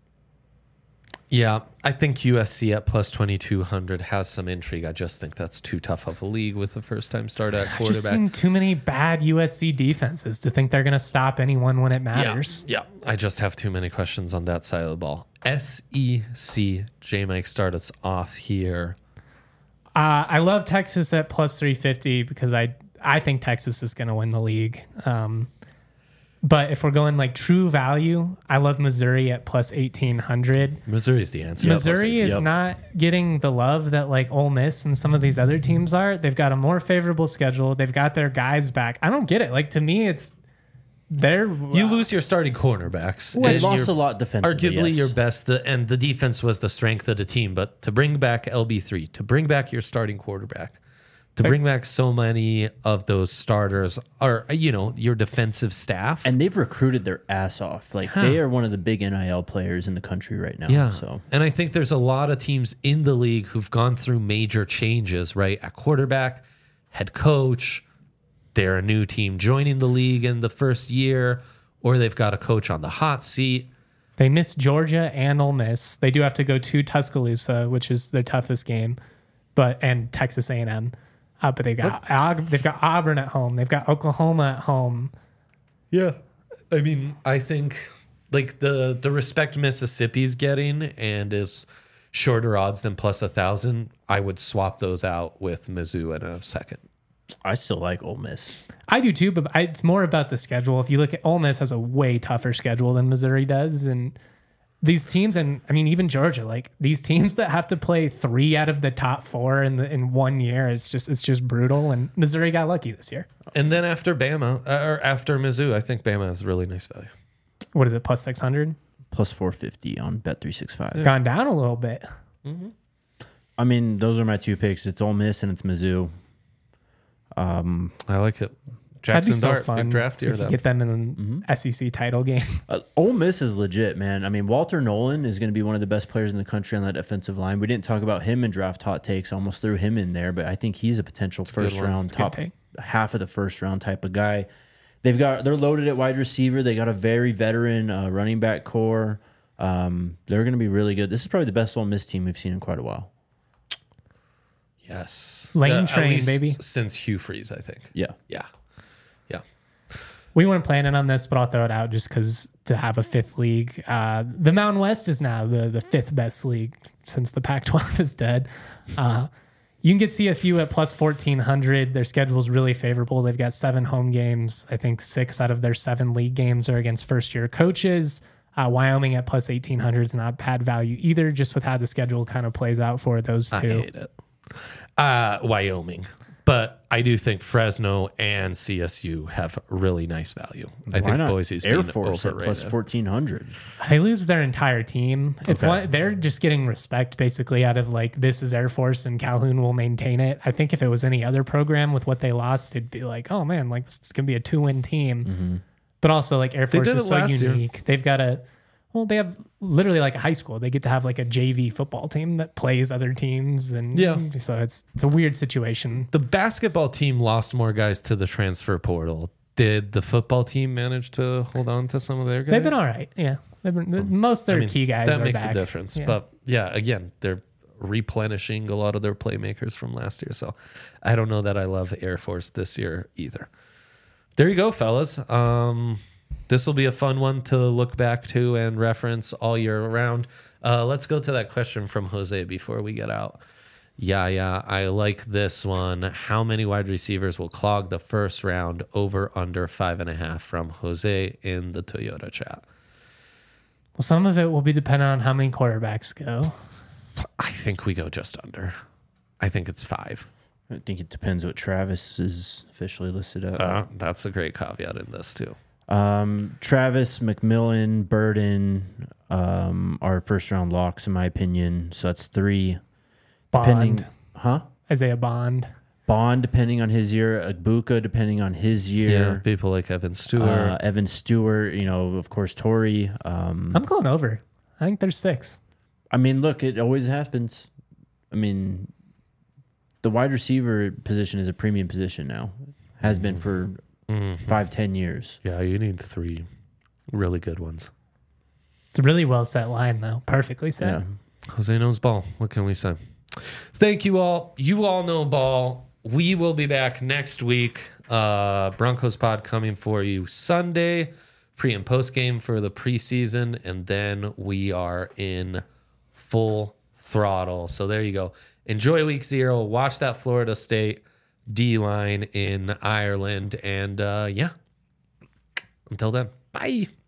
Yeah, I think U S C at plus twenty-two hundred has some intrigue. I just think that's too tough of a league with a first-time start at I've just quarterback. seen too many bad U S C defenses to think they're going to stop anyone when it matters. Yeah, yeah, I just have too many questions on that side of the ball. S E C, J Mike, start us off here. Uh, I love Texas at plus three fifty because I I think Texas is going to win the league. Um, but if we're going like true value, I love Missouri at plus eighteen hundred. Missouri's the answer. Missouri Plus is eighteen. not getting the love that like Ole Miss and some of these other teams are. They've got a more favorable schedule. They've got their guys back. I don't get it. Like to me, it's they're You lose your starting cornerbacks. They and lost you're a lot defensively. Arguably yes. your best, the, and the defense was the strength of the team. But to bring back L B three, to bring back your starting quarterback, to bring back so many of those starters, or you know your defensive staff, And they've recruited their ass off. Like they are one of the big N I L players in the country right now. yeah. So And I think there's a lot of teams in the league who've gone through major changes, right? At quarterback, head coach, they're a new team joining the league in the first year, or they've got a coach on the hot seat. They miss Georgia and Ole Miss. They do have to go to Tuscaloosa, which is their toughest game, but and Texas A and M. Uh, but they got Aub- they've got Auburn at home. They've got Oklahoma at home. Yeah. I mean, I think like the the respect Mississippi's getting and is shorter odds than plus a thousand, I would swap those out with Mizzou in a second. I still like Ole Miss. I do too, but I, it's more about the schedule. If you look at Ole Miss has a way tougher schedule than Missouri does, and these teams, and I mean even Georgia, like these teams that have to play three out of the top four in the in one year, it's just it's just brutal. And Missouri got lucky this year. And then after Bama, uh, or after Mizzou, I think Bama has really nice value. What is it? Plus six hundred? Plus four fifty on Bet three sixty-five. Gone down a little bit. I mean, those are my two picks. It's Ole Miss and it's Mizzou. I like it. That'd Jackson be so Dart, fun big draft if year you though. get them in an S E C title game. Uh, Ole Miss is legit, man. I mean, Walter Nolan is going to be one of the best players in the country on that defensive line. We didn't talk about him in draft hot takes. Almost threw him in there, but I think he's a potential good first one. round, It's a good top take. half of the first round type of guy. They've got they're loaded at wide receiver. They got a very veteran uh, running back core. Um, they're going to be really good. This is probably the best Ole Miss team we've seen in quite a while. Yes. Lane at train, least baby. Since Hugh Freeze, I think. Yeah. Yeah. Yeah. We weren't planning on this, but I'll throw it out just because to have a fifth league. Uh, the Mountain West is now the, the fifth best league since the Pac twelve is dead. Uh, you can get C S U at plus fourteen hundred. Their schedule is really favorable. They've got seven home games. I think six out of their seven league games are against first year coaches. Uh, Wyoming at plus eighteen hundred is not bad value either, just with how the schedule kind of plays out for those two. I hate it. Uh, Wyoming. But I do think Fresno and C S U have really nice value. I Why think not Boise's Air being Force at overrated. plus fourteen hundred. They lose their entire team. It's Okay. one they're just getting respect basically out of like this is Air Force and Calhoun will maintain it. I think if it was any other program with what they lost, it'd be like, oh man, like this is gonna be a two win team. Mm-hmm. But also like Air Force did is it so last year. unique. They've got a well, they have literally like a high school. They get to have like a J V football team that plays other teams, and Yeah. so it's it's a weird situation. The basketball team lost more guys to the transfer portal. Did the football team manage to hold on to some of their guys? They've been all right. Yeah, they've been most of their I mean, key guys. That are makes back. a difference. Yeah. But yeah, again, they're replenishing a lot of their playmakers from last year. So I don't know that I love Air Force this year either. There you go, fellas. Um, this will be a fun one to look back to and reference all year around. Uh, let's go to that question from Jose before we get out. Yeah, yeah, I like this one. How many wide receivers will clog the first round? Over, under five and a half from Jose in the Toyota chat. Well, some of it will be dependent on how many quarterbacks go. I think we go just under. I think it's five. I think it depends what Travis is officially listed at. Uh, that's a great caveat in this too. Um, Travis, McMillan, Burden um, are first round locks in my opinion. So that's three. Depending, Bond, huh? Isaiah Bond. Bond, depending on his year. Agbuka, depending on his Yeah, year. people like Evan Stewart. Uh, Evan Stewart, you know, of course, Torrey. Um, I'm going over. I think there's six. I mean, look, it always happens. I mean, the wide receiver position is a premium position now. Has been for Mhm. five, ten years. Yeah, you need three really good ones. It's a really well set line, though. Perfectly set. Yeah. Jose knows ball. What can we say? Thank you all. You all know ball. We will be back next week. Uh, Broncos pod coming for you Sunday, pre and post game for the preseason, and then we are in full throttle. So there you go. Enjoy week zero. Watch that Florida State D line in Ireland, and uh, yeah. Until then, bye.